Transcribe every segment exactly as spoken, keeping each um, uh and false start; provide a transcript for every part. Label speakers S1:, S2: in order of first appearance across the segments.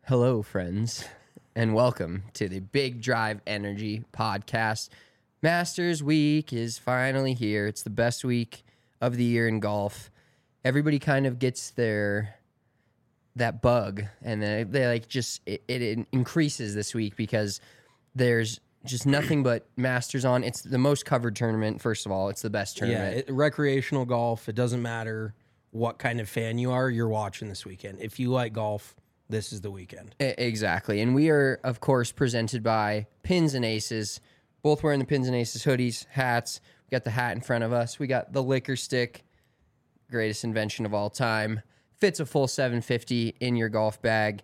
S1: Hello, friends, and welcome to the Big Drive Energy Podcast. Masters Week is finally here. It's the best week of the year in golf. Everybody kind of gets their that bug, and then they like just it, it increases this week because there's just nothing but Masters on. It's the most covered tournament. First of all, it's the best tournament.
S2: Yeah, it, recreational golf. It doesn't matter what kind of fan you are. You're watching this weekend. If you like golf, this is the weekend.
S1: Exactly. And we are, of course, presented by Pins and Aces, both wearing the Pins and Aces hoodies, hats. We got the hat in front of us. We got the liquor stick, greatest invention of all time. Fits a full seven fifty in your golf bag.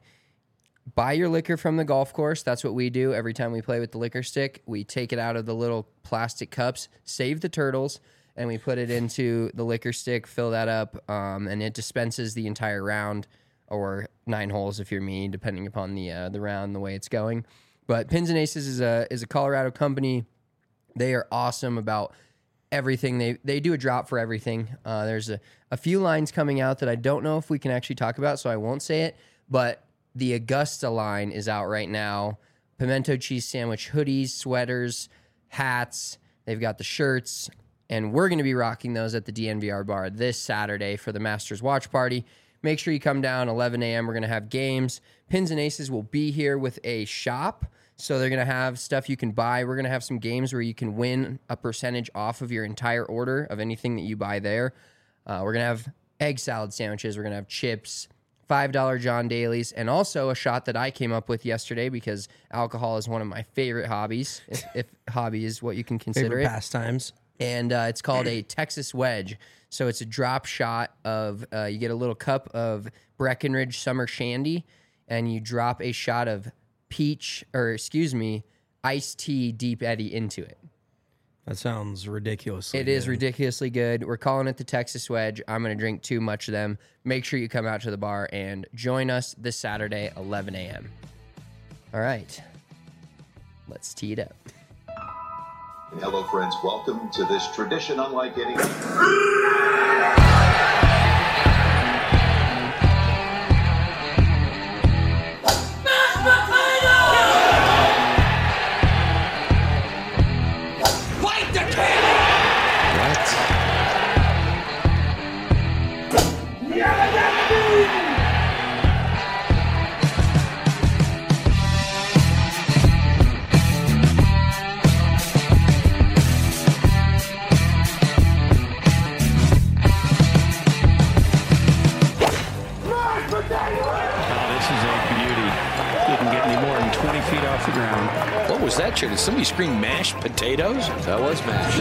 S1: Buy your liquor from the golf course. That's what we do every time we play with the liquor stick. We take it out of the little plastic cups, save the turtles, and we put it into the liquor stick, fill that up, um, and it dispenses the entire round, or nine holes if you're me, depending upon the uh, the round, the way it's going. But Pins and Aces is a is a Colorado company. They are awesome about everything. They they do a drop for everything. Uh, there's a, a few lines coming out that I don't know if we can actually talk about, so I won't say it. But the Augusta line is out right now. Pimento cheese sandwich hoodies, sweaters, hats. They've got the shirts. And we're going to be rocking those at the D N V R bar this Saturday for the Masters watch party. Make sure you come down eleven a.m. We're going to have games. Pins and Aces will be here with a shop. So they're going to have stuff you can buy. We're going to have some games where you can win a percentage off of your entire order of anything that you buy there. Uh, we're going to have egg salad sandwiches. We're going to have chips, five dollar John Daly's, and also a shot that I came up with yesterday because alcohol is one of my favorite hobbies, if, if hobby is what you can consider
S2: Favorite
S1: it.
S2: pastimes.
S1: And uh, it's called a Texas Wedge. So it's a drop shot of, uh, you get a little cup of Breckenridge Summer Shandy, and you drop a shot of peach, or excuse me, iced tea Deep Eddy into it.
S2: That sounds ridiculous.
S1: It is ridiculously good. We're calling it the Texas Wedge. I'm going to drink too much of them. Make sure you come out to the bar and join us this Saturday, eleven a.m. All right. Let's tee it up.
S3: Hello, friends. Welcome to this tradition unlike any.
S4: What was that, Chair? Did somebody scream mashed potatoes?
S5: That was mashed.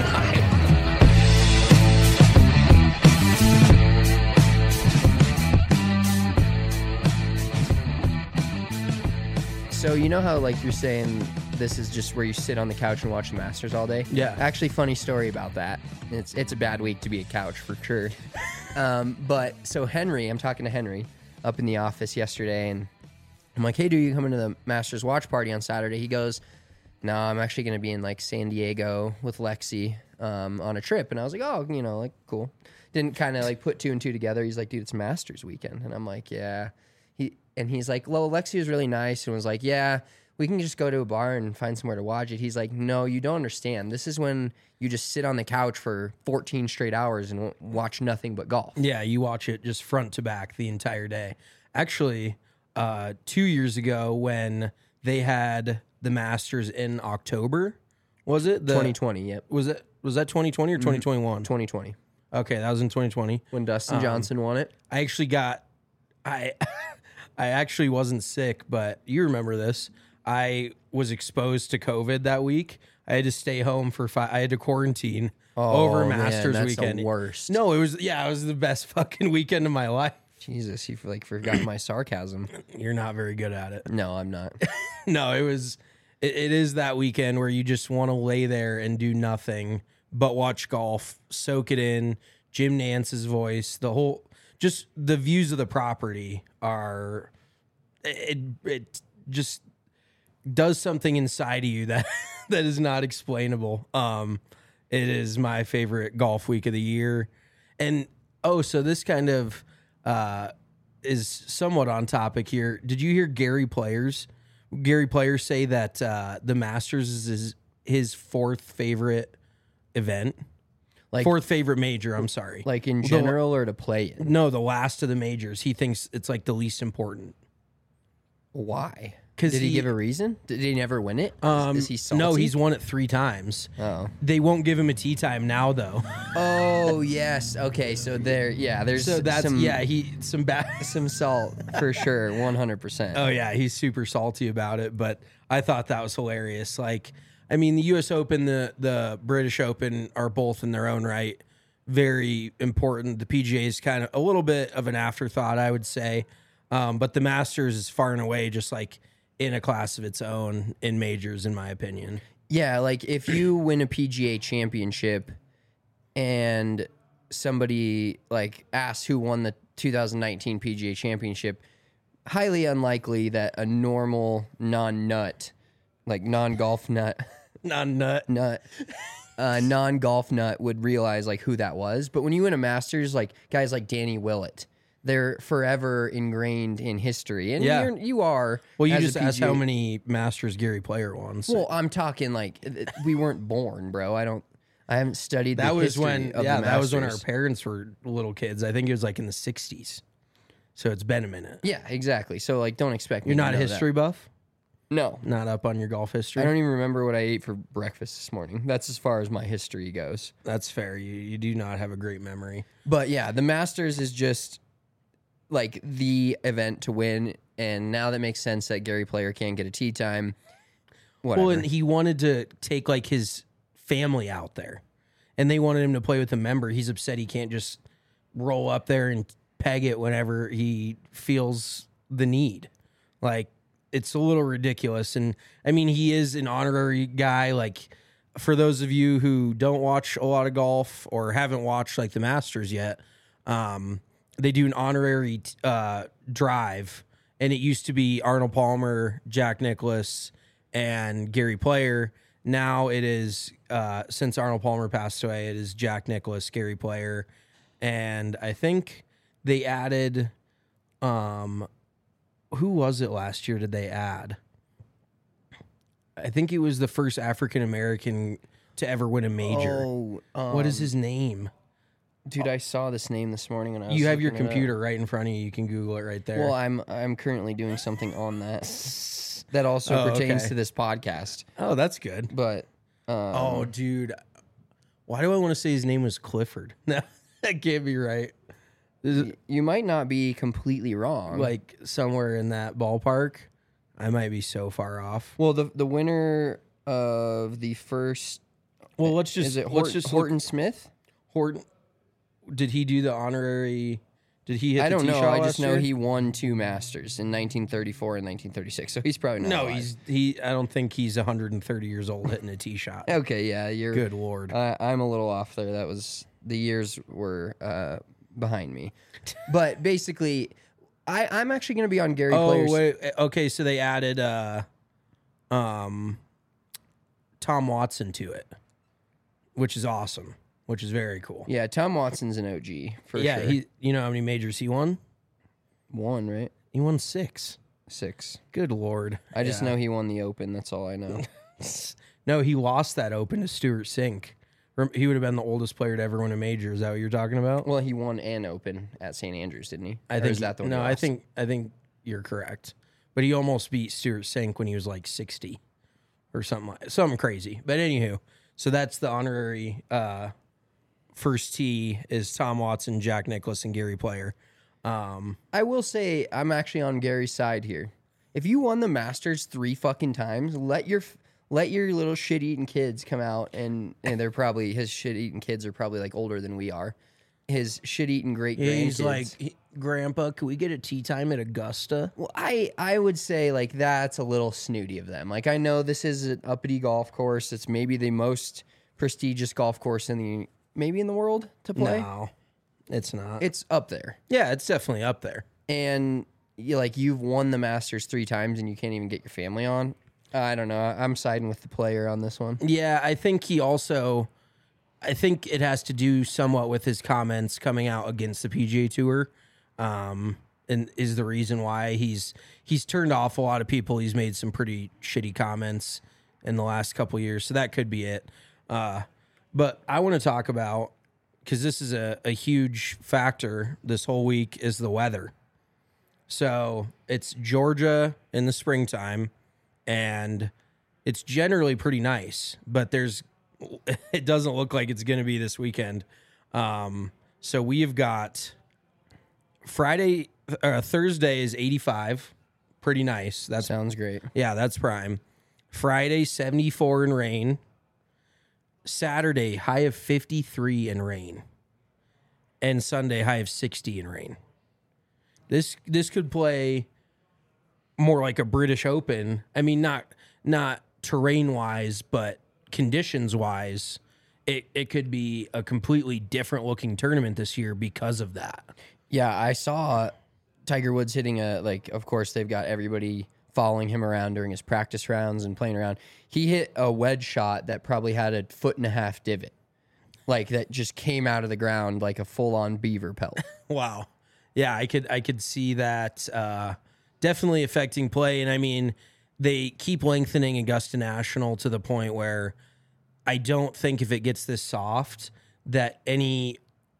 S1: So you know how, like, you're saying this is just where you sit on the couch and watch the Masters all day?
S2: Yeah.
S1: Actually, funny story about that. It's it's a bad week to be a couch for sure. um, but so Henry, I'm talking to Henry up in the office yesterday, and I'm like, hey, dude, you coming to the Masters watch party on Saturday? He goes, no, I'm actually going to be in, like, San Diego with Lexi um, on a trip. And I was like, oh, you know, like, cool. Didn't kind of, like, put two and two together. He's like, dude, it's Masters weekend. And I'm like, yeah. He And he's like, well, Lexi was really nice and was like, yeah, we can just go to a bar and find somewhere to watch it. He's like, no, you don't understand. This is when you just sit on the couch for fourteen straight hours and watch nothing but golf.
S2: Yeah, you watch it just front to back the entire day. Actually, uh, two years ago when they had the Masters in October, was it? The,
S1: twenty twenty, yep.
S2: Was it? Was that twenty twenty or twenty twenty-one?
S1: twenty twenty.
S2: Okay, that was in twenty twenty.
S1: When Dustin
S2: Um,
S1: Johnson won it.
S2: I actually got, I, I actually wasn't sick, but you remember this. I was exposed to COVID that week. I had to stay home for five. I had to quarantine
S1: Oh,
S2: over
S1: man,
S2: Masters
S1: that's the
S2: weekend.
S1: worst.
S2: No, it was yeah, it was the best fucking weekend of my life.
S1: Jesus, you like forgot my sarcasm.
S2: You're not very good at it.
S1: No, I'm not.
S2: No, it was. It, it is that weekend where you just want to lay there and do nothing but watch golf, soak it in. Jim Nance's voice, the whole, just the views of the property are. It it just does something inside of you that that is not explainable. Um, it is my favorite golf week of the year, and oh, so this kind of uh is somewhat on topic here. Did you hear Gary Players? Gary Players say that uh, the Masters is his, his fourth favorite event,
S1: Like
S2: fourth favorite major. I'm sorry,
S1: like in
S2: The-
S1: general or to play in?
S2: no, the last of the majors. He thinks it's like the least important.
S1: Why?
S2: 'Cause
S1: Did he,
S2: he-
S1: give a reason? Did he never win it? Is-
S2: Um,
S1: is he salty?
S2: no, he's won it three times.
S1: Oh.
S2: They won't give him a tee time now, though.
S1: Oh yes. Okay. So there. Yeah. There's
S2: So that's
S1: some,
S2: yeah, he some bad.
S1: some salt for sure. One hundred percent.
S2: Oh yeah, he's super salty about it. But I thought that was hilarious. Like, I mean, the U S Open, the the British Open are both in their own right very important. The P G A is kind of a little bit of an afterthought, I would say. Um, but the Masters is far and away just like in a class of its own in majors, in my opinion.
S1: Yeah. Like if you win a P G A championship, and somebody like asks who won the two thousand nineteen P G A championship, highly unlikely that a normal non-nut, like non-golf nut,
S2: Not nut.
S1: nut, uh, non-golf nut would realize like who that was. But when you win a Masters, like guys like Danny Willett, they're forever ingrained in history. And
S2: Yeah.
S1: you're, you are.
S2: Well, you
S1: as a
S2: just asked
S1: P G A
S2: how many Masters Gary Player won. So
S1: Well, I'm talking like th- we weren't born, bro. I don't. I haven't studied.
S2: that
S1: the
S2: was
S1: history
S2: when,
S1: of
S2: yeah,
S1: the
S2: that was when our
S1: Masters.
S2: parents were little kids. I think it was like in the sixties. So it's been a minute.
S1: Yeah, exactly. So like, don't expect me
S2: You're
S1: to
S2: not a
S1: know that.
S2: history buff?
S1: No,
S2: Not up on your golf history?
S1: I don't even remember what I ate for breakfast this morning. That's as far as my history goes.
S2: That's fair. You you do not have a great memory.
S1: But yeah, the Masters is just like the event to win, and now that makes sense that Gary Player can't get a tee time. Whatever.
S2: Well, and he wanted to take like his family out there, and they wanted him to play with a member. He's upset he can't just roll up there and peg it whenever he feels the need. Like, it's a little ridiculous. And I mean, he is an honorary guy. Like, for those of you who don't watch a lot of golf or haven't watched like the Masters yet, um, they do an honorary uh, drive, and it used to be Arnold Palmer, Jack Nicklaus, and Gary Player. Now it is, uh, since Arnold Palmer passed away, it is Jack Nicklaus, Gary Player, and I think they added, um, who was it last year? Did they add? I think it was the first African American to ever win a major.
S1: Oh, um,
S2: What is his name?
S1: dude? I saw this name this morning, and I was
S2: You have your
S1: looking it up.
S2: computer right in front of you. You can Google it right there.
S1: Well, I'm I'm currently doing something on that that also
S2: Oh,
S1: pertains
S2: okay.
S1: to this podcast.
S2: oh, that's good.
S1: But um,
S2: Oh, dude. Why do I want to say his name was Clifford? No, that can't be right. This is
S1: you might not be completely wrong.
S2: like somewhere in that ballpark. I might be so far off.
S1: well, the the winner of the first
S2: Well, let's just
S1: is it
S2: let's
S1: Horton,
S2: just
S1: Horton
S2: look-
S1: Smith?
S2: Horton. Did he do the honorary? Did he hit?
S1: I
S2: the
S1: don't
S2: tee
S1: know.
S2: shot
S1: I
S2: last
S1: just know
S2: year?
S1: he won two Masters in nineteen thirty-four and nineteen thirty-six. So he's probably not.
S2: No,
S1: alive.
S2: he's he. I don't think he's one hundred thirty years old hitting a tee shot.
S1: okay. Yeah, you're
S2: Good lord.
S1: I I'm a little off there. That was the years were uh, behind me, but basically, I I'm actually going to be on Gary
S2: Oh
S1: Player's.
S2: wait, okay. So they added uh, um, Tom Watson to it, which is awesome. Which is very cool.
S1: Yeah, Tom Watson's an O G for
S2: yeah,
S1: sure.
S2: he. You know how many majors he won?
S1: One, right?
S2: He won six.
S1: Six.
S2: Good lord.
S1: I just
S2: Yeah.
S1: know he won the Open. That's all I know.
S2: No, he lost that Open to Stuart Sink. Rem- He would have been the oldest player to ever win a major. Is that what you're talking about?
S1: Well, he won an Open at Saint Andrews, didn't he?
S2: I
S1: Or
S2: think
S1: is that the one
S2: no.
S1: he
S2: I
S1: lost?
S2: think I think you're correct. But he almost beat Stuart Sink when he was like sixty or something like something crazy. But anywho, so that's the honorary uh, first tee is Tom Watson, Jack Nicklaus, and Gary Player. Um,
S1: I will say I'm actually on Gary's side here. If you won the Masters three fucking times, let your let your little shit eating kids come out and and they're probably his shit eating kids are probably like older than we are. His shit eating great grandkids.
S2: he's like, "He- Grandpa, can we get a tee time at Augusta?
S1: Well, I I would say like that's a little snooty of them. Like I know this is an uppity golf course. It's maybe the most prestigious golf course in the maybe in the world to play.
S2: No, it's not.
S1: It's up there.
S2: yeah, it's definitely up there.
S1: And you like you've won the Masters three times and you can't even get your family on. I don't know. I'm siding with the player on this one.
S2: Yeah, I think he also, I think it has to do somewhat with his comments coming out against the P G A Tour, um, and is the reason why he's he's turned off a lot of people. He's made some pretty shitty comments in the last couple of years, so that could be it. Uh, but I want to talk about, because this is a, a huge factor this whole week, is the weather. So it's Georgia in the springtime, and it's generally pretty nice, but there's it doesn't look like it's going to be this weekend. Um, so we've got Friday, uh, Thursday is eighty-five, pretty nice. That
S1: Sounds great.
S2: Yeah, that's prime. Friday, seventy-four and rain. Saturday, high of fifty-three and rain. And Sunday, high of sixty and rain. This this could play more like a British Open. I mean, not not terrain-wise, but conditions-wise, it, it could be a completely different-looking tournament this year because of that.
S1: Yeah, I saw Tiger Woods hitting a, like, of course, they've got everybody following him around during his practice rounds and playing around. He hit a wedge shot that probably had a foot and a half divot, like that just came out of the ground like a full-on beaver pelt.
S2: Wow. Yeah, I could I could see that uh, definitely affecting play. And I mean, they keep lengthening Augusta National to the point where I don't think if it gets this soft that any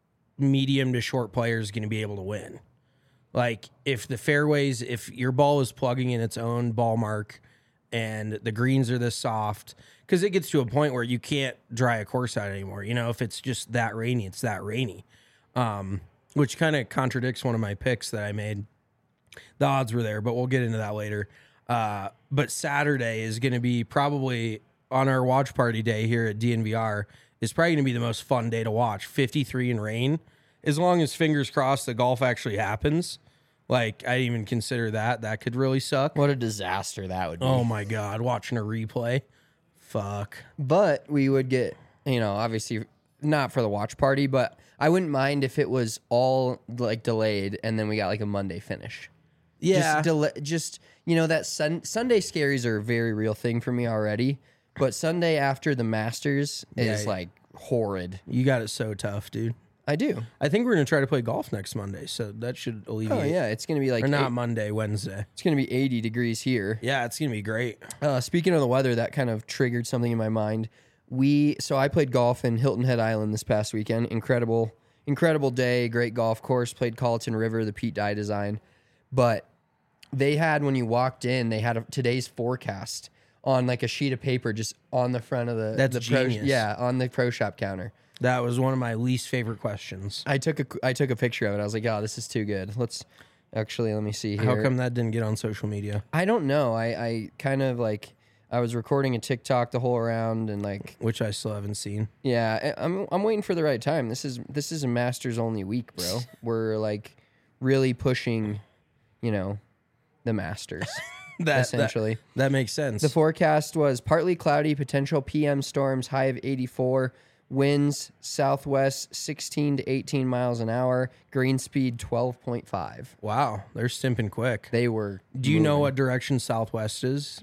S2: medium to short player is going to be able to win. Like if the fairways, if your ball is plugging in its own ball mark and the greens are this soft, because it gets to a point where you can't dry a course out anymore. You know, if it's just that rainy, it's that rainy. Um, which kind of contradicts one of my picks that I made. The odds were there, but we'll get into that later. Uh, but Saturday is going to be probably on our watch party day here at D N V R is probably going to be the most fun day to watch. fifty-three in rain. As long as fingers crossed the golf actually happens. Like, I didn't even consider that. That could really suck.
S1: What a disaster that would be.
S2: Oh, my God. Watching a replay. Fuck.
S1: But we would get, you know, obviously not for the watch party, but I wouldn't mind if it was all like delayed and then we got like a Monday finish.
S2: Yeah.
S1: Just, delay, just you know, that sun, Sunday scaries are a very real thing for me already. But Sunday after the Masters is
S2: Yeah.
S1: like horrid.
S2: You got it so tough, dude.
S1: I do.
S2: I think we're going to try to play golf next Monday, so that should alleviate.
S1: Oh, yeah. It's going to be like,
S2: Or not
S1: eight,
S2: Monday, Wednesday.
S1: it's going to be eighty degrees here.
S2: Yeah, it's going to be great.
S1: Uh, speaking of the weather, that kind of triggered something in my mind. We so I played golf in Hilton Head Island this past weekend. Incredible, incredible day. Great golf course. Played Colleton River, the Pete Dye design. But they had, when you walked in, they had a, today's forecast on like a sheet of paper, just on the front of the
S2: That's
S1: the pro,
S2: genius.
S1: yeah, on the pro shop counter.
S2: That was one of my least favorite questions.
S1: I took a I took a picture of it. I was like, oh, this is too good. Let's actually let me see here.
S2: How come that didn't get on social media?
S1: I don't know. I I kind of like. I was recording a TikTok the whole around and like,
S2: Which I still haven't seen.
S1: yeah, I- I'm I'm waiting for the right time. This is this is a Masters only week, bro. We're like really pushing, you know, the Masters
S2: That,
S1: essentially.
S2: That, that makes sense.
S1: The forecast was partly cloudy, potential P M storms, high of eighty-four, winds southwest sixteen to eighteen miles an hour, green speed twelve point five.
S2: wow, they're stimping quick.
S1: They were.
S2: Do you know
S1: moving.
S2: what direction southwest is?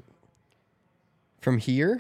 S1: From here?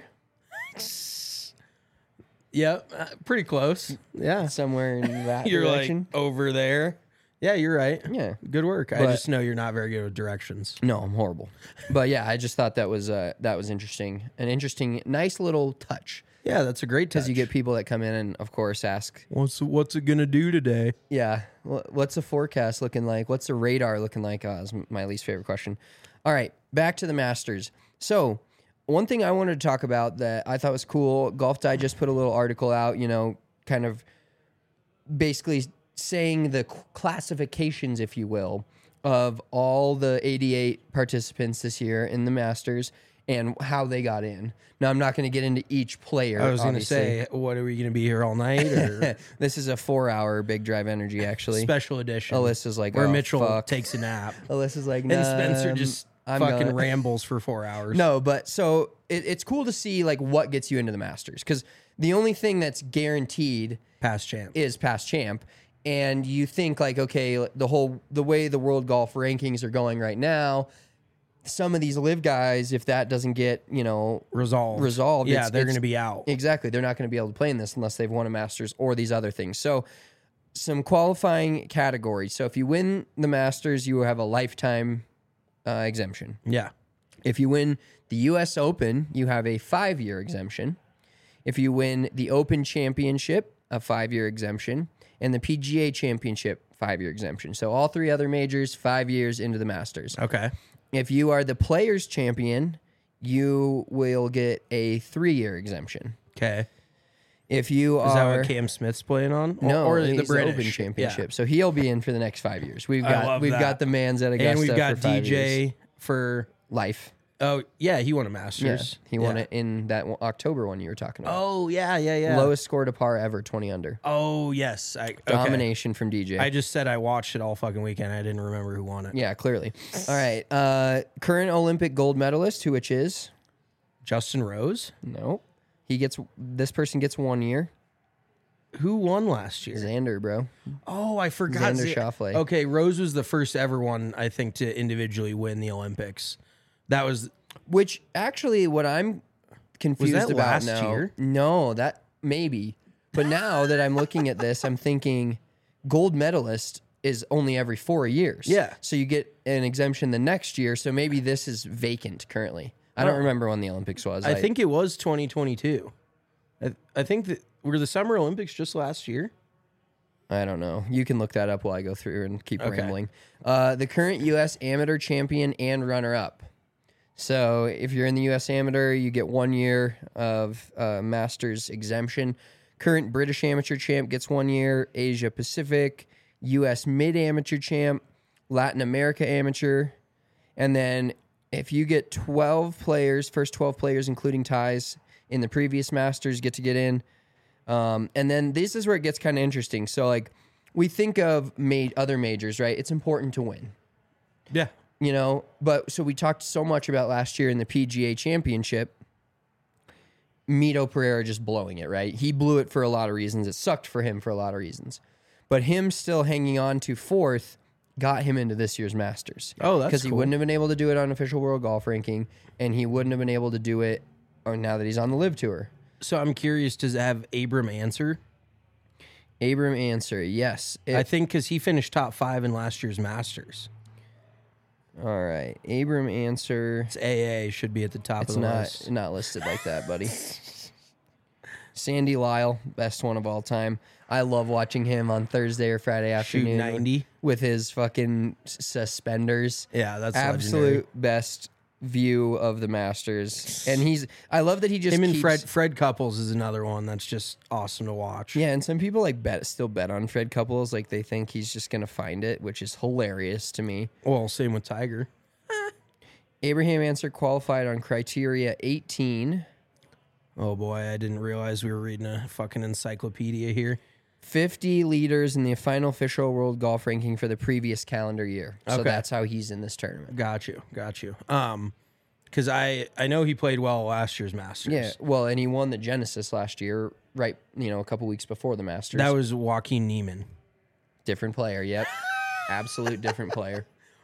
S2: Yep, uh, pretty close. Yeah.
S1: Somewhere in that
S2: You're
S1: direction?
S2: like over there. Yeah, you're right.
S1: Yeah.
S2: Good work. I
S1: But-
S2: just know you're not very good with directions.
S1: No, I'm horrible. But yeah, I just thought that was uh, that was interesting. An interesting, nice little touch.
S2: Yeah, that's a great touch.
S1: Because you get people that come in and, of course, ask,
S2: What's what's it gonna do today?
S1: yeah, wh- what's the forecast looking like? What's the radar looking like? Oh, is my least favorite question. All right, back to the Masters. So one thing I wanted to talk about that I thought was cool, Golf Digest put a little article out, you know, kind of basically saying the c- classifications, if you will, of all the eighty-eight participants this year in the Masters and how they got in. Now, I'm not going to get into each player.
S2: I was gonna
S1: obviously.
S2: say, what are we gonna be here all night or
S1: This is a four-hour Big Drive Energy, actually.
S2: special edition?
S1: Alyssa's like,
S2: where
S1: oh,
S2: Mitchell
S1: fuck.
S2: takes a nap
S1: Alyssa's like,
S2: and Spencer
S1: "Nah,
S2: just
S1: I'm
S2: fucking
S1: gonna-"
S2: rambles for four hours.
S1: No, but so it, it's cool to see like what gets you into the Masters, because the only thing that's guaranteed
S2: past champ.
S1: is past champ. And you think like, okay, the whole the way the world golf rankings are going right now, some of these live guys, if that doesn't get, you know,
S2: resolved.
S1: resolved,
S2: Yeah,
S1: it's-
S2: they're
S1: it's-
S2: gonna be out.
S1: Exactly. They're not going to be able to play in this unless they've won a Masters or these other things. So some qualifying categories. So if you win the Masters, you have a lifetime uh, exemption.
S2: Yeah.
S1: If you win the U S Open, you have a five-year exemption. If you win the Open Championship, a five-year exemption. And the P G A Championship, five-year exemption. So all three other majors, five years into the Masters.
S2: Okay.
S1: If you are the Players Champion, you will get a three-year exemption.
S2: Okay.
S1: If you
S2: Is
S1: are...
S2: that what Cam Smith's playing on?
S1: No,
S2: or
S1: he's
S2: the British
S1: Open Championship.
S2: Yeah.
S1: So he'll be in for the next five years. We've
S2: I
S1: got
S2: love
S1: we've
S2: that.
S1: got the Mans at Augusta
S2: And we've got
S1: for five
S2: D J
S1: years.
S2: for
S1: Life.
S2: oh yeah, he won a
S1: Yeah,
S2: Masters.
S1: he won
S2: Yeah.
S1: it in that one- October one you were talking about.
S2: Oh yeah, yeah, yeah.
S1: Lowest score to par ever, twenty under.
S2: Oh yes, I okay.
S1: Domination from D J.
S2: I just said I watched it all fucking weekend. I didn't remember who won it.
S1: yeah, clearly. All right. Uh, current Olympic gold medalist, who which is
S2: Justin Rose.
S1: no, he gets this person gets one year.
S2: Who won last year?
S1: Xander, bro.
S2: Oh, I forgot.
S1: Xander
S2: Z-
S1: Schauffele.
S2: Okay, Rose was the first ever one, I think, to individually win the Olympics. That was
S1: Which actually, what I'm confused
S2: that
S1: about
S2: last
S1: now.
S2: year?
S1: No, that maybe. But now that I'm looking at this, I'm thinking gold medalist is only every four years.
S2: Yeah.
S1: So you get an exemption the next year. So maybe this is vacant currently. I don't
S2: Oh.
S1: remember when the Olympics was.
S2: I think it was twenty twenty-two. I, I think that were the Summer Olympics just last year.
S1: I don't know. You can look that up while I go through and keep
S2: Okay.
S1: rambling. Uh, the current U S amateur champion and runner-up. So if you're in the U S amateur, you get one year of uh, Masters exemption. Current British amateur champ gets one year. Asia Pacific, U S mid amateur champ, Latin America amateur, and then if you get twelve players, first twelve players including ties in the previous Masters get to get in. Um, and then this is where it gets kind of interesting. So like we think of ma- other majors, right? It's important to win.
S2: Yeah.
S1: You know, but so we talked so much about last year in the P G A Championship. Mito Pereira just blowing it, right? He blew it for a lot of reasons. It sucked for him for a lot of reasons. But him still hanging on to fourth got him into this year's Masters.
S2: Oh, that's
S1: Because he
S2: cool.
S1: wouldn't have been able to do it on official world golf ranking, and he wouldn't have been able to do it or now that he's on the Live Tour.
S2: So I'm curious, does it have Abram answer?
S1: Abram Answer, yes. It-
S2: I think because he finished top five in last year's Masters.
S1: all right. Abram Answer.
S2: It's A A should be at the top
S1: It's
S2: of the
S1: not
S2: list.
S1: not listed like that, buddy. Sandy Lyle, best one of all time. I love watching him on Thursday or Friday
S2: Shoot
S1: afternoon
S2: ninety.
S1: with his fucking s- suspenders.
S2: Yeah, that's
S1: Absolute
S2: legendary.
S1: best view of the Masters. And he's I love that he just
S2: Him and
S1: keeps,
S2: Fred Fred Couples is another one that's just awesome to watch.
S1: Yeah, and some people like bet still bet on Fred Couples, like they think he's just gonna find it, which is hilarious to me.
S2: Well, same with Tiger.
S1: Abraham Answer qualified on criteria eighteen.
S2: Oh boy, I didn't realize we were reading a fucking encyclopedia here.
S1: fifty leaders in the final official world golf ranking for the previous calendar year. So
S2: Okay.
S1: that's how he's in this tournament.
S2: Got you, got you. Um, because I I know he played well last year's Masters.
S1: Yeah, well, and he won the Genesis last year, right? You know, a couple weeks before the Masters.
S2: that was Joaquin Neiman.
S1: different player. Yep, absolute different player.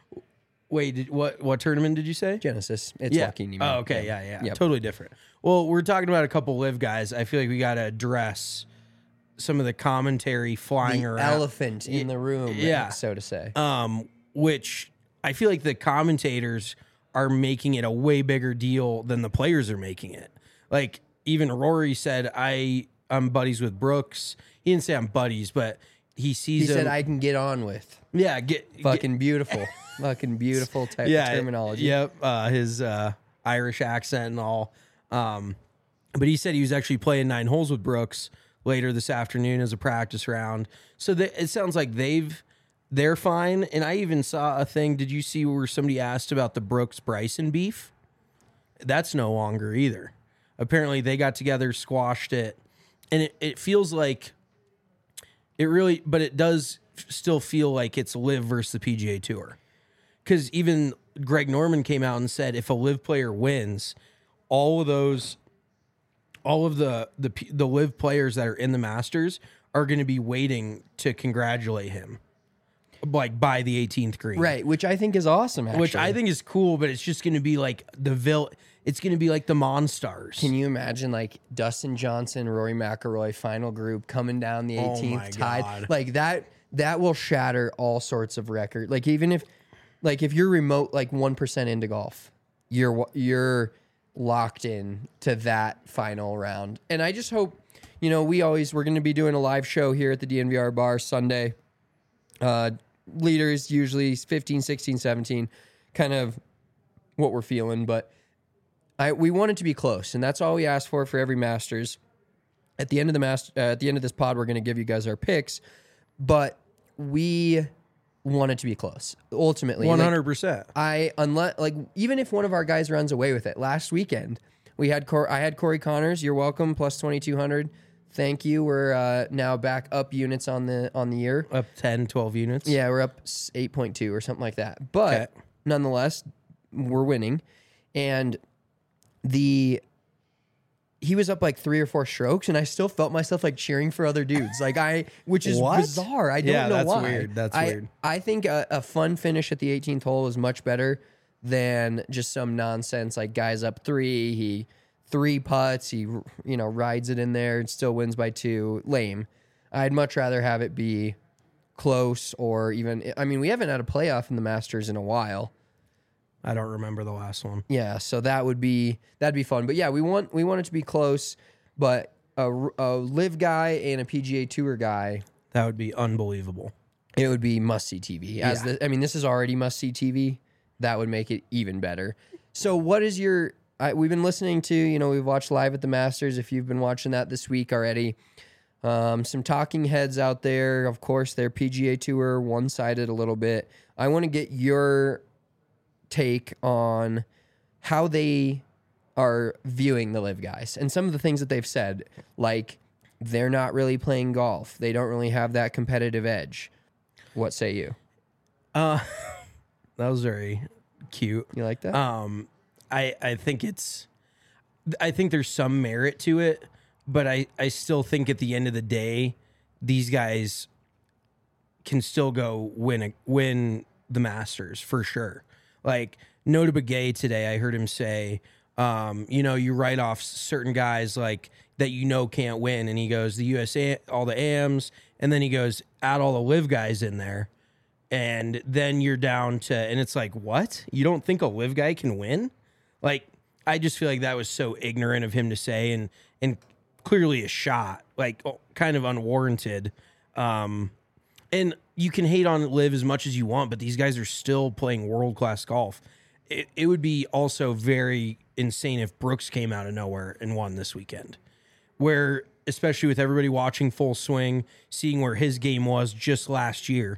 S2: Wait, did, what what tournament did you say?
S1: Genesis. It's
S2: yeah.
S1: Joaquin Neiman.
S2: Oh, okay, yeah, yeah,
S1: Yep.
S2: totally different. Well, we're talking about a couple live guys. I feel like we got to address some of the commentary flying
S1: The
S2: around.
S1: elephant in the room,
S2: yeah.
S1: so to say.
S2: um, which I feel like the commentators are making it a way bigger deal than the players are making it. Like even Rory said, I I'm buddies with Brooks. He didn't say I'm buddies, but he sees
S1: he
S2: him.
S1: said, "I can get on with."
S2: yeah, get
S1: Fucking beautiful, fucking beautiful type
S2: yeah,
S1: of terminology.
S2: Yep, uh, his uh, Irish accent and all. Um, but he said he was actually playing nine holes with Brooks later this afternoon as a practice round. So that it sounds like they've they're fine. And I even saw a thing. Did you see where somebody asked about the Brooks Bryson beef? That's no longer either. Apparently they got together, squashed it, and it, it feels like it really, but it does still feel like it's Live versus the P G A Tour. Because even Greg Norman came out and said if a Live player wins, all of those, all of the the the Live players that are in the Masters are going to be waiting to congratulate him like by the eighteenth green.
S1: Right, which I think is awesome, actually.
S2: Which I think is cool, but it's just going to be like the vil. It's going to be like the Monstars.
S1: Can you imagine like Dustin Johnson, Rory McIlroy, final group coming down the eighteenth
S2: my
S1: tied?
S2: God.
S1: Like that, that will shatter all sorts of records. Like even if, like if you're remote, like one percent into golf, you're you're locked in to that final round. And I just hope, you know, we always we're going to be doing a live show here at the D N V R bar Sunday. Uh, leaders usually fifteen, sixteen, seventeen, kind of what we're feeling, but. I, we want it to be close, and that's all we ask for for every Masters. At the end of the master, uh, at the end of this pod, we're going to give you guys our picks, but we want it to be close. Ultimately,
S2: one hundred percent.
S1: Like, I unless like even if one of our guys runs away with it. Last weekend, we had Cor- I had Corey Connors. You're welcome. Plus twenty two hundred. Thank you. We're uh, now back up units on the on the year.
S2: Up ten, twelve units.
S1: Yeah, we're up eight point two or something like that. But
S2: Okay.
S1: nonetheless, we're winning, and. The he was up like three or four strokes, and I still felt myself like cheering for other dudes. Like I, which is
S2: What?
S1: bizarre. I don't
S2: Yeah,
S1: know
S2: that's
S1: why.
S2: weird. That's
S1: I,
S2: weird.
S1: I think a, a fun finish at the eighteenth hole is much better than just some nonsense like guys up three. He three putts. He you know rides it in there and still wins by two. Lame. I'd much rather have it be close or even. I mean, we haven't had a playoff in the Masters in a while.
S2: I don't remember the last one.
S1: Yeah, so that would be that'd be fun. But yeah, we want we want it to be close. But a, a live guy and a P G A Tour guy,
S2: That would be unbelievable.
S1: it would be must see T V. As
S2: Yeah.
S1: the, I mean, this is already must see T V. That would make it even better. So, what is your? I, we've been listening to. You know, we've watched live at the Masters. If you've been watching that this week already, um, some talking heads out there. Of course, they're P G A Tour one sided a little bit. I want to get your take on how they are viewing the live guys and some of the things that they've said, like they're not really playing golf. They don't really have that competitive edge. What say you?
S2: Uh, that was very cute.
S1: You like that?
S2: Um, I I think it's, I think there's some merit to it, but I I still think at the end of the day, these guys can still go win a, win the Masters for sure. Like Nota Begay today, I heard him say, um, you know, you write off certain guys like that you know can't win, and he goes the U S A, all the A Ms, and then he goes add all the live guys in there, and then you're down to, and it's like, what? You don't think a live guy can win? Like, I just feel like that was so ignorant of him to say, and and clearly a shot, like kind of unwarranted. Um, and you can hate on live as much as you want, but these guys are still playing world class golf. It, it would be also very insane if Brooks came out of nowhere and won this weekend, where especially with everybody watching Full Swing, seeing where his game was just last year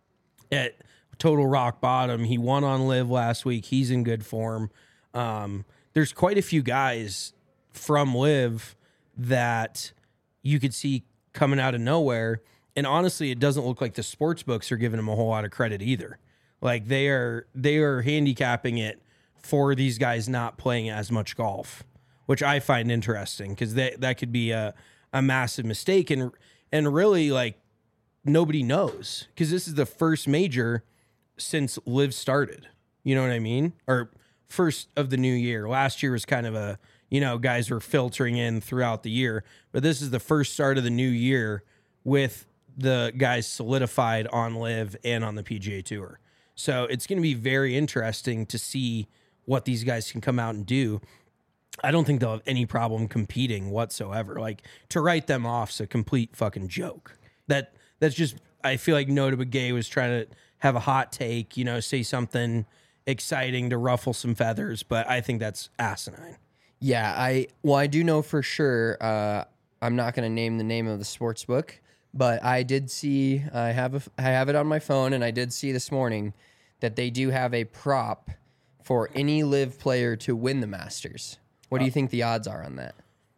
S2: at total rock bottom. He won on live last week. He's in good form. Um, there's quite a few guys from live that you could see coming out of nowhere. And honestly, it doesn't look like the sports books are giving them a whole lot of credit either. Like they are, they are handicapping it for these guys not playing as much golf, which I find interesting because that that could be a, a massive mistake. And and really, like nobody knows because this is the first major since live started. You know what I mean? Or first of the new year. Last year was kind of a, you know, guys were filtering in throughout the year, but this is the first start of the new year with the guys solidified on live and on the P G A Tour. So it's going to be very interesting to see what these guys can come out and do. I don't think they'll have any problem competing whatsoever. Like to write them off's a complete fucking joke. That that's just, I feel like Nota Begay was trying to have a hot take, you know, say something exciting to ruffle some feathers, but I think that's asinine.
S1: Yeah, I well, I do know for sure. Uh, I'm not going to name the name of the sports book, but I did see. I have a, I have it on my phone, and I did see this morning that they do have a prop for any live player to win the Masters. What do you think the odds are on that?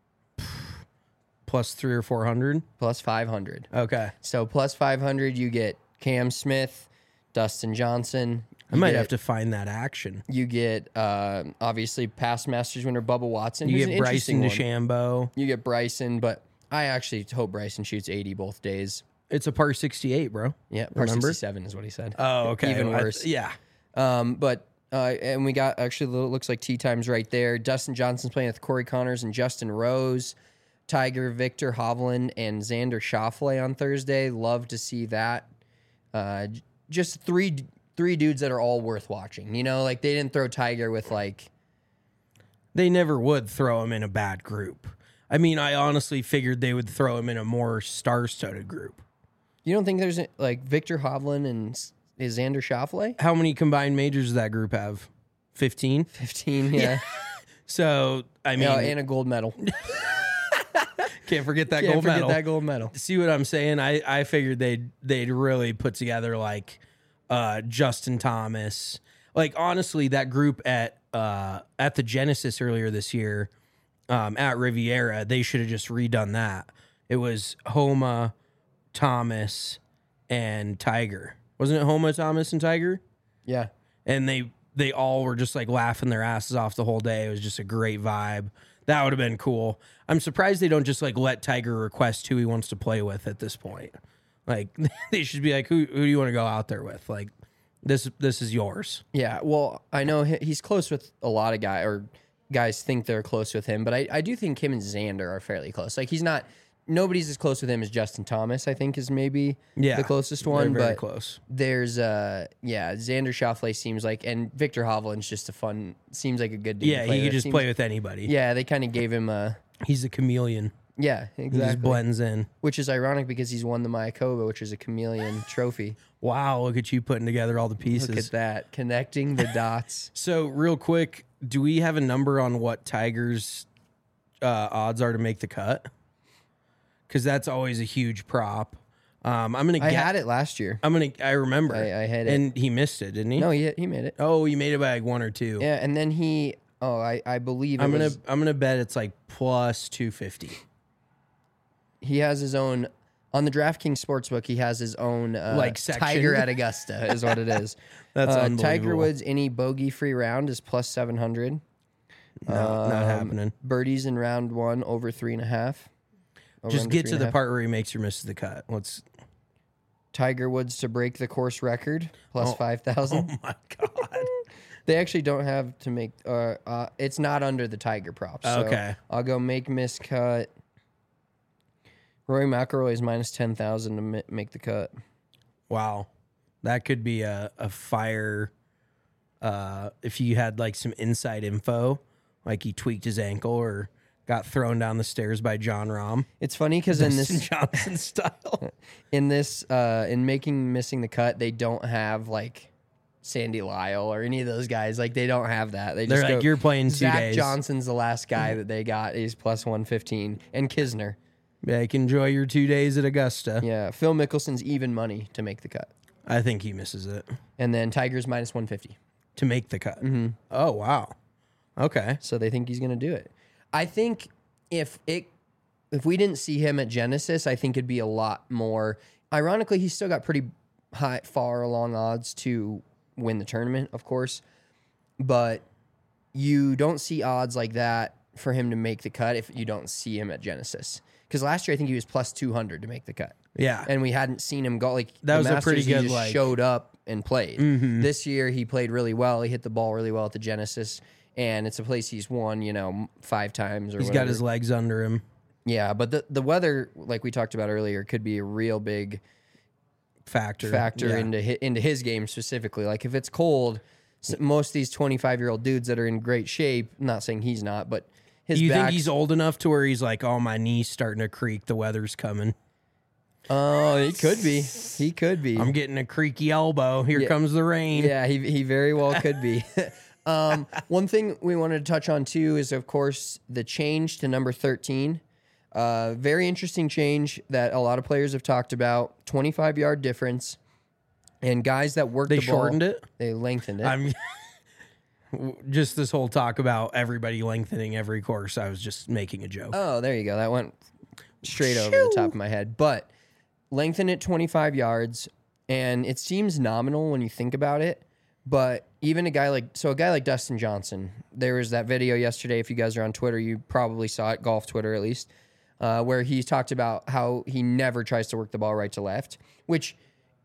S2: Plus three or four hundred.
S1: Plus five hundred.
S2: Okay,
S1: So plus five hundred, you get Cam Smith, Dustin Johnson.
S2: I
S1: You
S2: might
S1: get-
S2: have to find that action.
S1: You get uh, obviously past Masters winner Bubba Watson.
S2: You
S1: who's
S2: get
S1: an
S2: Bryson
S1: interesting one.
S2: DeChambeau.
S1: You get Bryson, but I actually hope Bryson shoots eighty both days.
S2: It's a par sixty-eight, bro.
S1: Yeah, par
S2: Remember?
S1: sixty-seven is what he said.
S2: Oh, okay.
S1: Even
S2: I-
S1: worse.
S2: yeah.
S1: Um, but uh, and we got actually it looks like tee times right there. Dustin Johnson's playing with Corey Connors and Justin Rose, Tiger, Victor Hovland, and Xander Schauffele on Thursday. Love to see that. Uh, j- just three three dudes that are all worth watching. You know, like they didn't throw Tiger with like.
S2: They never would throw him in a bad group. I mean, I honestly figured they would throw him in a more star-studded group.
S1: You don't think there's a, like Victor Hovland and S- is Xander Schauffele?
S2: How many combined majors does that group have? fifteen?
S1: Fifteen, yeah.
S2: So, I mean,
S1: Yeah, and a gold medal.
S2: can't forget that
S1: Can't
S2: gold
S1: forget
S2: medal.
S1: that gold medal.
S2: See what I'm saying? I, I figured they'd they'd really put together like uh, Justin Thomas. Like honestly, that group at uh, at the Genesis earlier this year um, at Riviera, they should have just redone that. It was Homa, Thomas, and Tiger. Wasn't it Homa, Thomas, and Tiger?
S1: Yeah.
S2: And they they all were just like laughing their asses off the whole day. It was just a great vibe. That would have been cool. I'm surprised they don't just like let Tiger request who he wants to play with at this point. Like they should be like, who who do you want to go out there with? Like this this is yours.
S1: Yeah, well, I know he- he's close with a lot of guys, or guys think they're close with him, but I, I do think him and Xander are fairly close. Like he's not, nobody's as close with him as Justin Thomas. I think is maybe
S2: Yeah,
S1: the closest
S2: they're
S1: one,
S2: very
S1: but
S2: close.
S1: there's uh yeah Xander Schauffele seems like, and Victor Hovland's just a fun, seems like a good dude.
S2: Yeah,
S1: to play
S2: he could
S1: with.
S2: just
S1: Seems-
S2: play with anybody.
S1: Yeah, they kind of gave him a
S2: He's a chameleon.
S1: yeah
S2: He
S1: exactly,
S2: just blends in.
S1: which is ironic because he's won the Mayakoba, which is a chameleon trophy.
S2: Wow, look at you putting together all the pieces.
S1: Look at that, connecting the dots.
S2: So, real quick, do we have a number on what Tiger's uh, odds are to make the cut? Because that's always a huge prop. Um, I'm gonna.
S1: I
S2: get,
S1: had it last year.
S2: I'm gonna. I remember.
S1: I- I had it.
S2: and he missed it, didn't he?
S1: No, he he made it.
S2: Oh, he made it by like one or two.
S1: Yeah, and then he. Oh, I, I believe it
S2: I'm gonna.
S1: was,
S2: I'm gonna bet it's like plus two fifty.
S1: he has his own on the DraftKings Sportsbook. He has his own uh,
S2: Like, section?
S1: Tiger at Augusta is what it is.
S2: That's
S1: uh,
S2: unbelievable.
S1: Tiger Woods any bogey free round is plus seven hundred.
S2: No, not happening.
S1: Birdies in round one over three and a half. Over
S2: Just
S1: under
S2: get
S1: three
S2: to
S1: and a
S2: the
S1: half.
S2: part where he makes or misses the cut. Let's.
S1: Tiger Woods to break the course record plus
S2: Oh.
S1: five thousand.
S2: Oh my god.
S1: They actually don't have to make. Uh, uh, it's not under the Tiger props. So
S2: Okay.
S1: I'll go make miss cut. Rory McIlroy is minus ten thousand to mi- make the cut.
S2: Wow, that could be a a fire. Uh, if you had like some inside info, like he tweaked his ankle or got thrown down the stairs by John Rahm,
S1: It's funny because in
S2: Dustin
S1: this
S2: Johnson style.
S1: in this uh, in making missing the cut, they don't have like Sandy Lyle or any of those guys. Like they don't have that. They
S2: They're
S1: just
S2: like,
S1: go,
S2: "You're playing two
S1: Zach
S2: days."
S1: Johnson's the last guy that they got. He's plus one fifteen, and Kisner.
S2: Yeah, you can enjoy your two days at Augusta.
S1: Yeah, Phil Mickelson's even money to make the cut,
S2: I think he misses it
S1: and then Tiger's minus one fifty.
S2: to make the cut.
S1: Mm-hmm.
S2: Oh wow, okay.
S1: So they think he's going to do it. I think if it if we didn't see him at Genesis, I think it'd be a lot more. Ironically, he's still got pretty high, far along odds to win the tournament, of course, but you don't see odds like that for him to make the cut if you don't see him at Genesis. Because last year I think he was plus two hundred to make the cut.
S2: Yeah,
S1: And we hadn't seen him go like
S2: That
S1: the
S2: was a
S1: Masters,
S2: pretty
S1: he
S2: good,
S1: just
S2: like-
S1: showed up and played.
S2: Mhm.
S1: This year he played really well. He hit the ball really well at the Genesis, and it's a place he's won, you know, m- five times or
S2: he's
S1: whatever.
S2: got his legs under him.
S1: Yeah, but the the weather, like we talked about earlier, could be a real big
S2: Factor,
S1: factor
S2: Yeah.
S1: into hi, into his game specifically. Like if it's cold, s- most of these twenty-five year old dudes that are in great shape. I'm not saying he's not, but his
S2: Do you think
S1: back's-
S2: he's old enough to where he's like, "Oh, my knee's starting to creak. The weather's coming.
S1: Oh, he could be. He could be.
S2: I'm getting a creaky elbow. Here
S1: Yeah.
S2: comes the rain."
S1: Yeah, he he very well could be. um, one thing we wanted to touch on too is, of course, the change to number thirteen. Uh, very interesting change that a lot of players have talked about. twenty-five yard difference, and guys that work
S2: They
S1: the ball,
S2: shortened it?
S1: They lengthened it.
S2: I'm just this whole talk about everybody lengthening every course. I was just making a joke.
S1: Oh, there you go. That went straight over the top of my head. But lengthen it twenty-five yards, and it seems nominal when you think about it. But even a guy like, so a guy like Dustin Johnson, there was that video yesterday. If you guys are on Twitter, you probably saw it, golf Twitter at least. uh, where he talked about how he never tries to work the ball right to left, which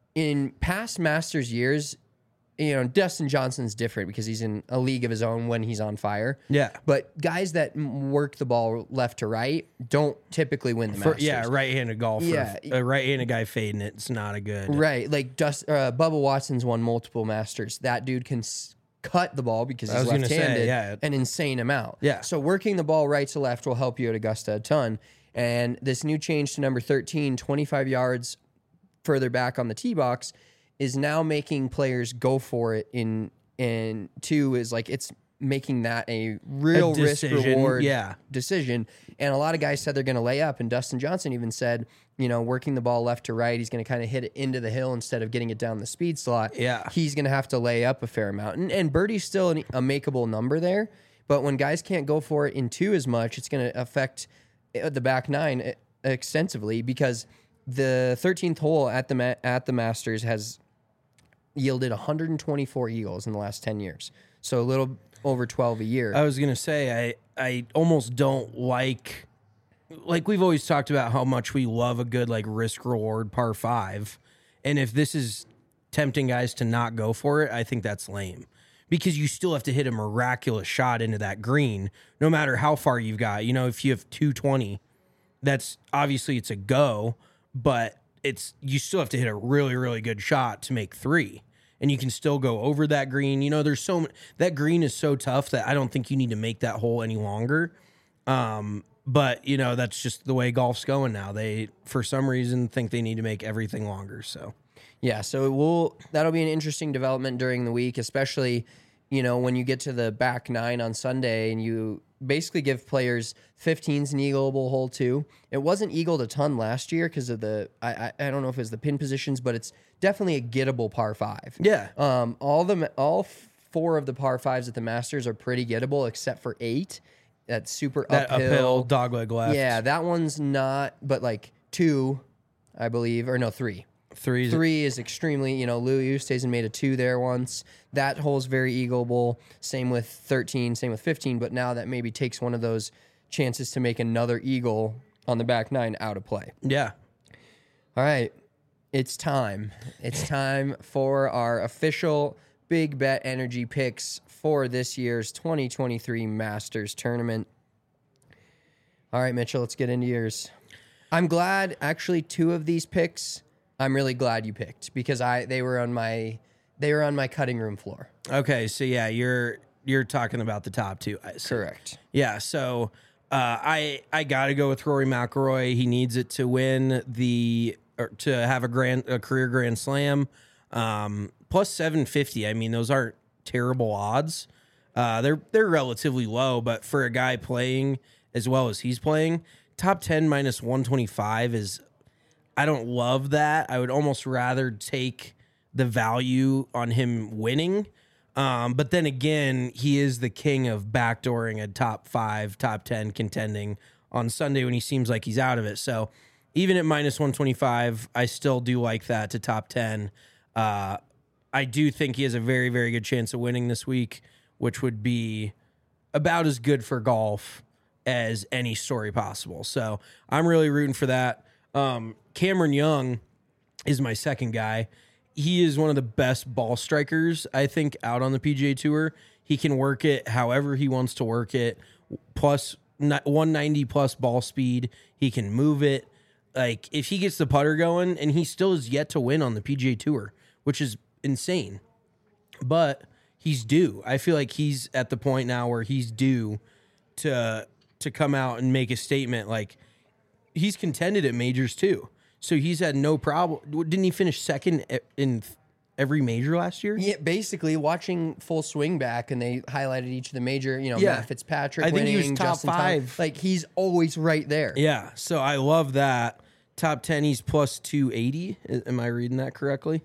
S1: in past Masters years, you know, Dustin Johnson's different because he's in a league of his own when he's on fire.
S2: Yeah.
S1: But guys that m- work the ball left to right don't typically win the
S2: For,
S1: Masters.
S2: yeah, right-handed golfer.
S1: Yeah.
S2: A right-handed guy fading it, it's not a good.
S1: Right. Like Dust, uh, Bubba Watson's won multiple Masters. That dude can s- cut the ball because
S2: I
S1: he's
S2: was gonna
S1: left-handed
S2: say, yeah.
S1: an insane amount.
S2: Yeah.
S1: So working the ball right to left will help you at Augusta a ton. And this new change to number thirteen, twenty-five yards further back on the tee box, is now making players go for it in and two is like it's making that a real
S2: A
S1: risk
S2: decision,
S1: reward
S2: yeah.
S1: decision. And a lot of guys said they're going to lay up, and Dustin Johnson even said, you know, working the ball left to right, he's going to kind of hit it into the hill instead of getting it down the speed slot.
S2: Yeah.
S1: He's going to have to lay up a fair amount. And, and birdie's still an, a makeable number there, but when guys can't go for it in two as much, it's going to affect the back nine extensively because the thirteenth hole at the ma- at the Masters has yielded one hundred twenty-four eagles in the last ten years. So a little over twelve a year.
S2: I was going to say, I, I almost don't like, like we've always talked about how much we love a good like risk reward par five. And if this is tempting guys to not go for it, I think that's lame because you still have to hit a miraculous shot into that green, no matter how far you've got. You know, if you have two twenty, that's obviously it's a go, but it's, you still have to hit a really, really good shot to make three. And you can still go over that green. You know, there's so many, that green is so tough that I don't think you need to make that hole any longer. Um, but you know, that's just the way golf's going now. They, for some reason, think they need to make everything longer. So,
S1: yeah, so it will that'll be an interesting development during the week, especially, you know, when you get to the back nine on Sunday and you basically give players fifteen's an eagleable hole too. It wasn't eagled a ton last year because of the I, I I don't know if it was the pin positions, but it's definitely a gettable par five.
S2: yeah.
S1: Um, all the all four of the par fives at the Masters are pretty gettable, except for eight. That's super
S2: That
S1: uphill.
S2: uphill, dogleg left.
S1: Yeah, that one's not. But like two, I believe, or no, three.
S2: Three.
S1: Three is extremely, you know, Louis Oosthuizen made a two there once. That hole's very eagleable. Same with thirteen, same with fifteen. But now that maybe takes one of those chances to make another eagle on the back nine out of play.
S2: Yeah.
S1: All right, it's time. It's time for our official Big Bet Energy picks for this year's twenty twenty-three Masters Tournament. All right, Mitchell, let's get into yours. I'm glad, actually, two of these picks, I'm really glad you picked because I they were on my they were on my cutting room floor.
S2: Okay. So yeah, you're, you're talking about the top two. I see.
S1: Correct.
S2: Yeah, so uh, I I gotta go with Rory McIlroy. He needs it to win the or to have a grand a career Grand Slam. Um, plus seven fifty. I mean, those aren't terrible odds. Uh, they're they're relatively low, but for a guy playing as well as he's playing, top ten minus one twenty five is. I don't love that. I would almost rather take the value on him winning. Um, but then again, he is the king of backdooring a top five, top ten contending on Sunday when he seems like he's out of it. So even at minus one twenty-five, I still do like that to top ten. Uh, I do think he has a very, very good chance of winning this week, which would be about as good for golf as any story possible. So I'm really rooting for that. Um, Cameron Young is my second guy. He is one of the best ball strikers, I think, out on the P G A Tour. He can work it however he wants to work it. Plus one ninety plus ball speed. He can move it. Like, if he gets the putter going, and he still is yet to win on the P G A Tour, which is insane. But he's due. I feel like he's at the point now where he's due to to come out and make a statement. Like, he's contended at majors too. So he's had no problem. Didn't he finish second in every major last year?
S1: Yeah, basically watching Full Swing back, and they highlighted each of the major. You know,
S2: Yeah.
S1: Matt Fitzpatrick.
S2: I think he was
S1: winning,
S2: top
S1: Justin
S2: five.
S1: Thomas. Like, he's always right there.
S2: Yeah. So I love that. Top ten, he's plus two eighty. Am I reading that correctly?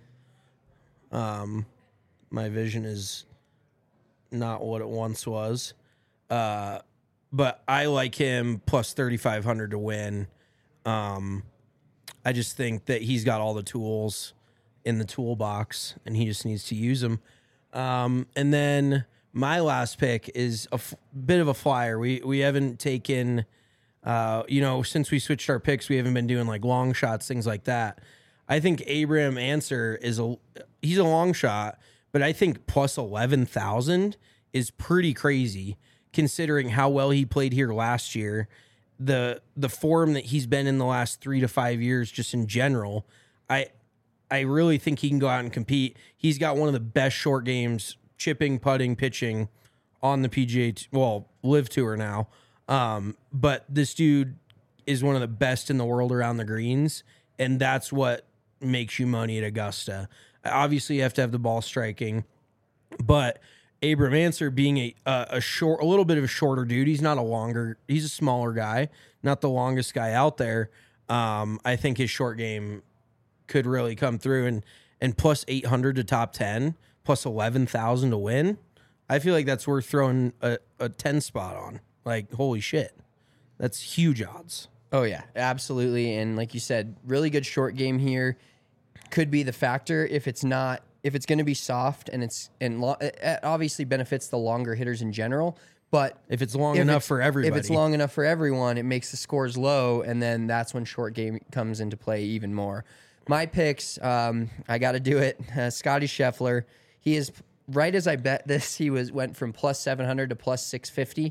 S2: Um, my vision is not what it once was. Uh, but I like him plus thirty-five hundred to win. Um, I just think that he's got all the tools in the toolbox, and he just needs to use them. Um, and then my last pick is a f- bit of a flyer. We we haven't taken Uh, you know, since we switched our picks, we haven't been doing like long shots, things like that. I think Abraham Answer is a he's a long shot, but I think plus eleven thousand is pretty crazy considering how well he played here last year. The the form that he's been in the last three to five years, just in general, I I really think he can go out and compete. He's got one of the best short games, chipping, putting, pitching on the P G A, t- well, Live Tour now. Um, but this dude is one of the best in the world around the greens, and that's what makes you money at Augusta. Obviously, you have to have the ball striking, but Abraham Answer being a a, a short, a little bit of a shorter dude. He's not a longer. He's a smaller guy, not the longest guy out there. Um, I think his short game could really come through, and and plus eight hundred to top ten, plus eleven thousand to win. I feel like that's worth throwing a, a ten spot on. Like, holy shit. That's huge odds.
S1: Oh, yeah, absolutely. And like you said, really good short game here. Could be the factor if it's not, if it's going to be soft and it's, and lo- it obviously benefits the longer hitters in general. But
S2: if it's long
S1: if
S2: enough
S1: it's,
S2: for everybody,
S1: if it's long enough for everyone, it makes the scores low. And then that's when short game comes into play even more. My picks, um, I got to do it. Uh, Scotty Scheffler. He is right as I bet this. He was went from plus seven hundred to plus six fifty.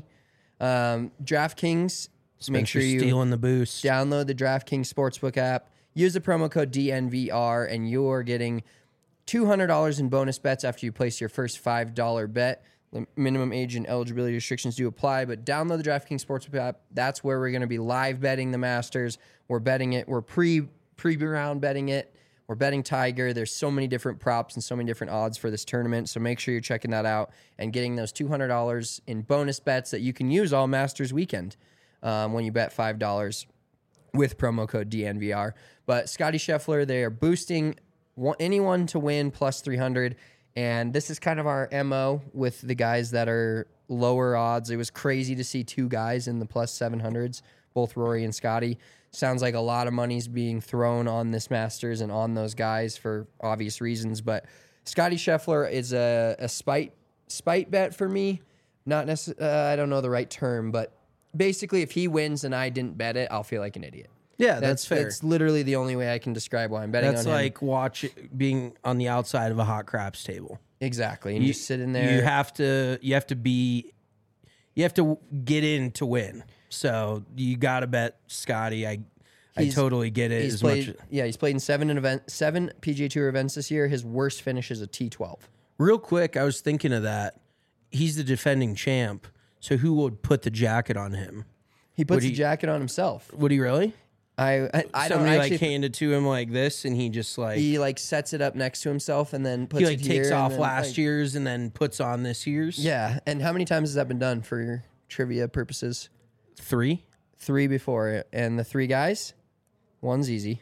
S1: Um, DraftKings, make sure you
S2: stealing the boost.
S1: Download the DraftKings Sportsbook app. Use the promo code D N V R, and you're getting two hundred dollars in bonus bets after you place your first five dollar bet. The minimum age and eligibility restrictions do apply, but download the DraftKings Sportsbook app. That's where we're going to be live betting the Masters. We're betting it. We're pre pre round betting it. We're betting Tiger. There's so many different props and so many different odds for this tournament. So make sure you're checking that out and getting those two hundred dollars in bonus bets that you can use all Masters weekend um, when you bet five dollars with promo code D N V R. But Scotty Scheffler, they are boosting anyone to win plus three hundred. And this is kind of our M O with the guys that are lower odds. It was crazy to see two guys in the plus seven hundreds, both Rory and Scotty. Sounds like a lot of money's being thrown on this Masters and on those guys for obvious reasons. But Scotty Scheffler is a, a spite spite bet for me. Not necessarily, uh, I don't know the right term, but basically if he wins and I didn't bet it, I'll feel like an idiot.
S2: Yeah, that's, that's fair.
S1: That's literally the only way I can describe why I'm betting
S2: that's
S1: on him.
S2: That's like watch being on the outside of a hot craps table.
S1: Exactly. And
S2: you
S1: just sit in there.
S2: You have to you have to be you have to get in to win. So you got to bet Scotty. I I totally get it.
S1: He's
S2: as
S1: played,
S2: much.
S1: Yeah, he's played in seven in event seven P G A Tour events this year. His worst finish is a T twelve.
S2: Real quick, I was thinking of that. He's the defending champ. So who would put the jacket on him?
S1: He puts
S2: Would
S1: the
S2: he-
S1: jacket on himself.
S2: Would he really?
S1: I I, I don't
S2: Somebody
S1: actually.
S2: like handed to him like this, and he just like
S1: he
S2: he,
S1: like sets it up next to himself and then puts
S2: like
S1: it
S2: takes
S1: here and
S2: off
S1: then,
S2: last
S1: like-
S2: year's and then puts on this year's.
S1: Yeah, and how many times has that been done for your trivia purposes?
S2: Three.
S1: Three before, and the three guys, one's easy.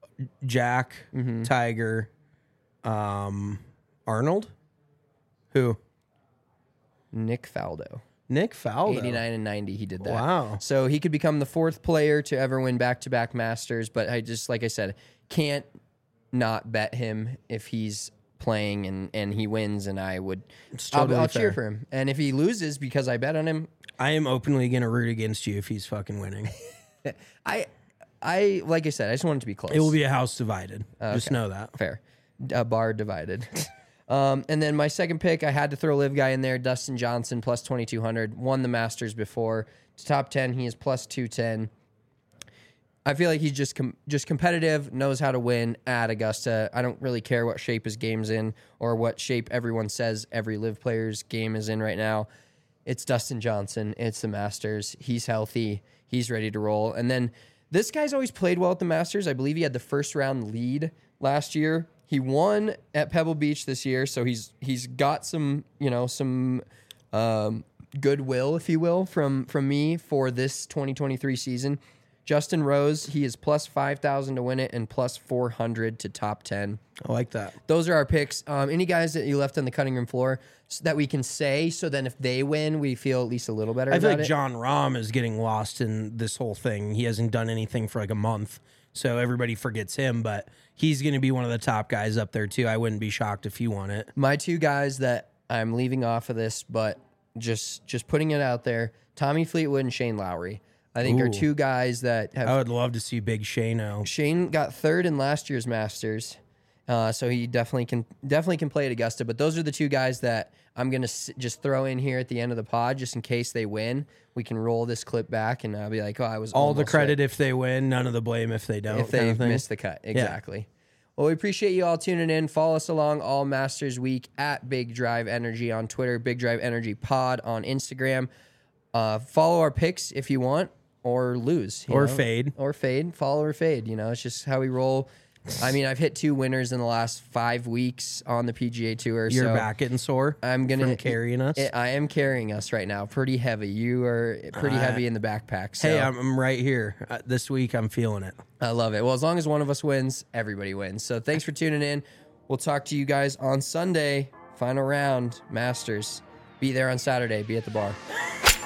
S2: Jack,
S1: Mm-hmm.
S2: Tiger, um, Arnold. Who?
S1: Nick Faldo.
S2: Nick Faldo.
S1: eighty-nine and ninety, he did that.
S2: Wow.
S1: So he could become the fourth player to ever win back-to-back Masters, but I just, like I said, can't not bet him if he's playing and, and he wins, and I would,
S2: totally
S1: I'll, I'll
S2: fair.
S1: cheer for him. And if he loses because I bet on him,
S2: I am openly going to root against you if he's fucking winning.
S1: I, I like I said, I just want it to be close.
S2: It will be a house divided. Just know that.
S1: Fair. A bar divided. um, and then my second pick, I had to throw a live guy in there. Dustin Johnson, plus twenty-two hundred. Won the Masters before. To top ten, he is plus two ten. I feel like he's just com- just competitive, knows how to win at Augusta. I don't really care what shape his game's in or what shape everyone says every live player's game is in right now. It's Dustin Johnson. It's the Masters. He's healthy. He's ready to roll. And then this guy's always played well at the Masters. I believe he had the first round lead last year. He won at Pebble Beach this year, so he's he's got some, you know, some um, goodwill, if you will, from from me for this twenty twenty-three season. Justin Rose, he is plus five thousand to win it and plus four hundred to top ten.
S2: I like that.
S1: Those are our picks. Um, any guys that you left on the cutting room floor s- that we can say, so then if they win, we feel at least a little better
S2: I feel
S1: about
S2: like
S1: it?
S2: John Rahm is getting lost in this whole thing. He hasn't done anything for like a month, so everybody forgets him, but he's going to be one of the top guys up there too. I wouldn't be shocked if he won it.
S1: My two guys that I'm leaving off of this, but just just putting it out there, Tommy Fleetwood and Shane Lowry. I think
S2: Ooh.
S1: are two guys that have.
S2: I would love to see Big Shano.
S1: Shane got third in last year's Masters, uh, so he definitely can definitely can play at Augusta. But those are the two guys that I'm gonna s- just throw in here at the end of the pod, just in case they win. We can roll this clip back, and I'll be like, "Oh, I was
S2: All the
S1: almost
S2: credit
S1: right
S2: if they win, none of the blame if they don't.
S1: if
S2: kind
S1: they
S2: of thing.
S1: missed the cut." Exactly. Well, we appreciate you all tuning in. Follow us along all Masters Week at Big Drive Energy on Twitter, Big Drive Energy Pod on Instagram. Uh, follow our picks if you want, or lose. you
S2: Or
S1: know?
S2: fade.
S1: Or fade. Follow or fade. You know, it's just how we roll. I mean, I've hit two winners in the last five weeks on the P G A Tour.
S2: You're
S1: so
S2: back getting sore.
S1: I'm gonna
S2: from carrying us.
S1: I am carrying us right now, pretty heavy. You are pretty
S2: Uh,
S1: heavy in the backpack. So
S2: Hey, I'm, I'm right here. Uh, this week, I'm feeling it.
S1: I love it. Well, as long as one of us wins, everybody wins. So thanks for tuning in. We'll talk to you guys on Sunday. Final round, Masters. Be there on Saturday. Be at the bar.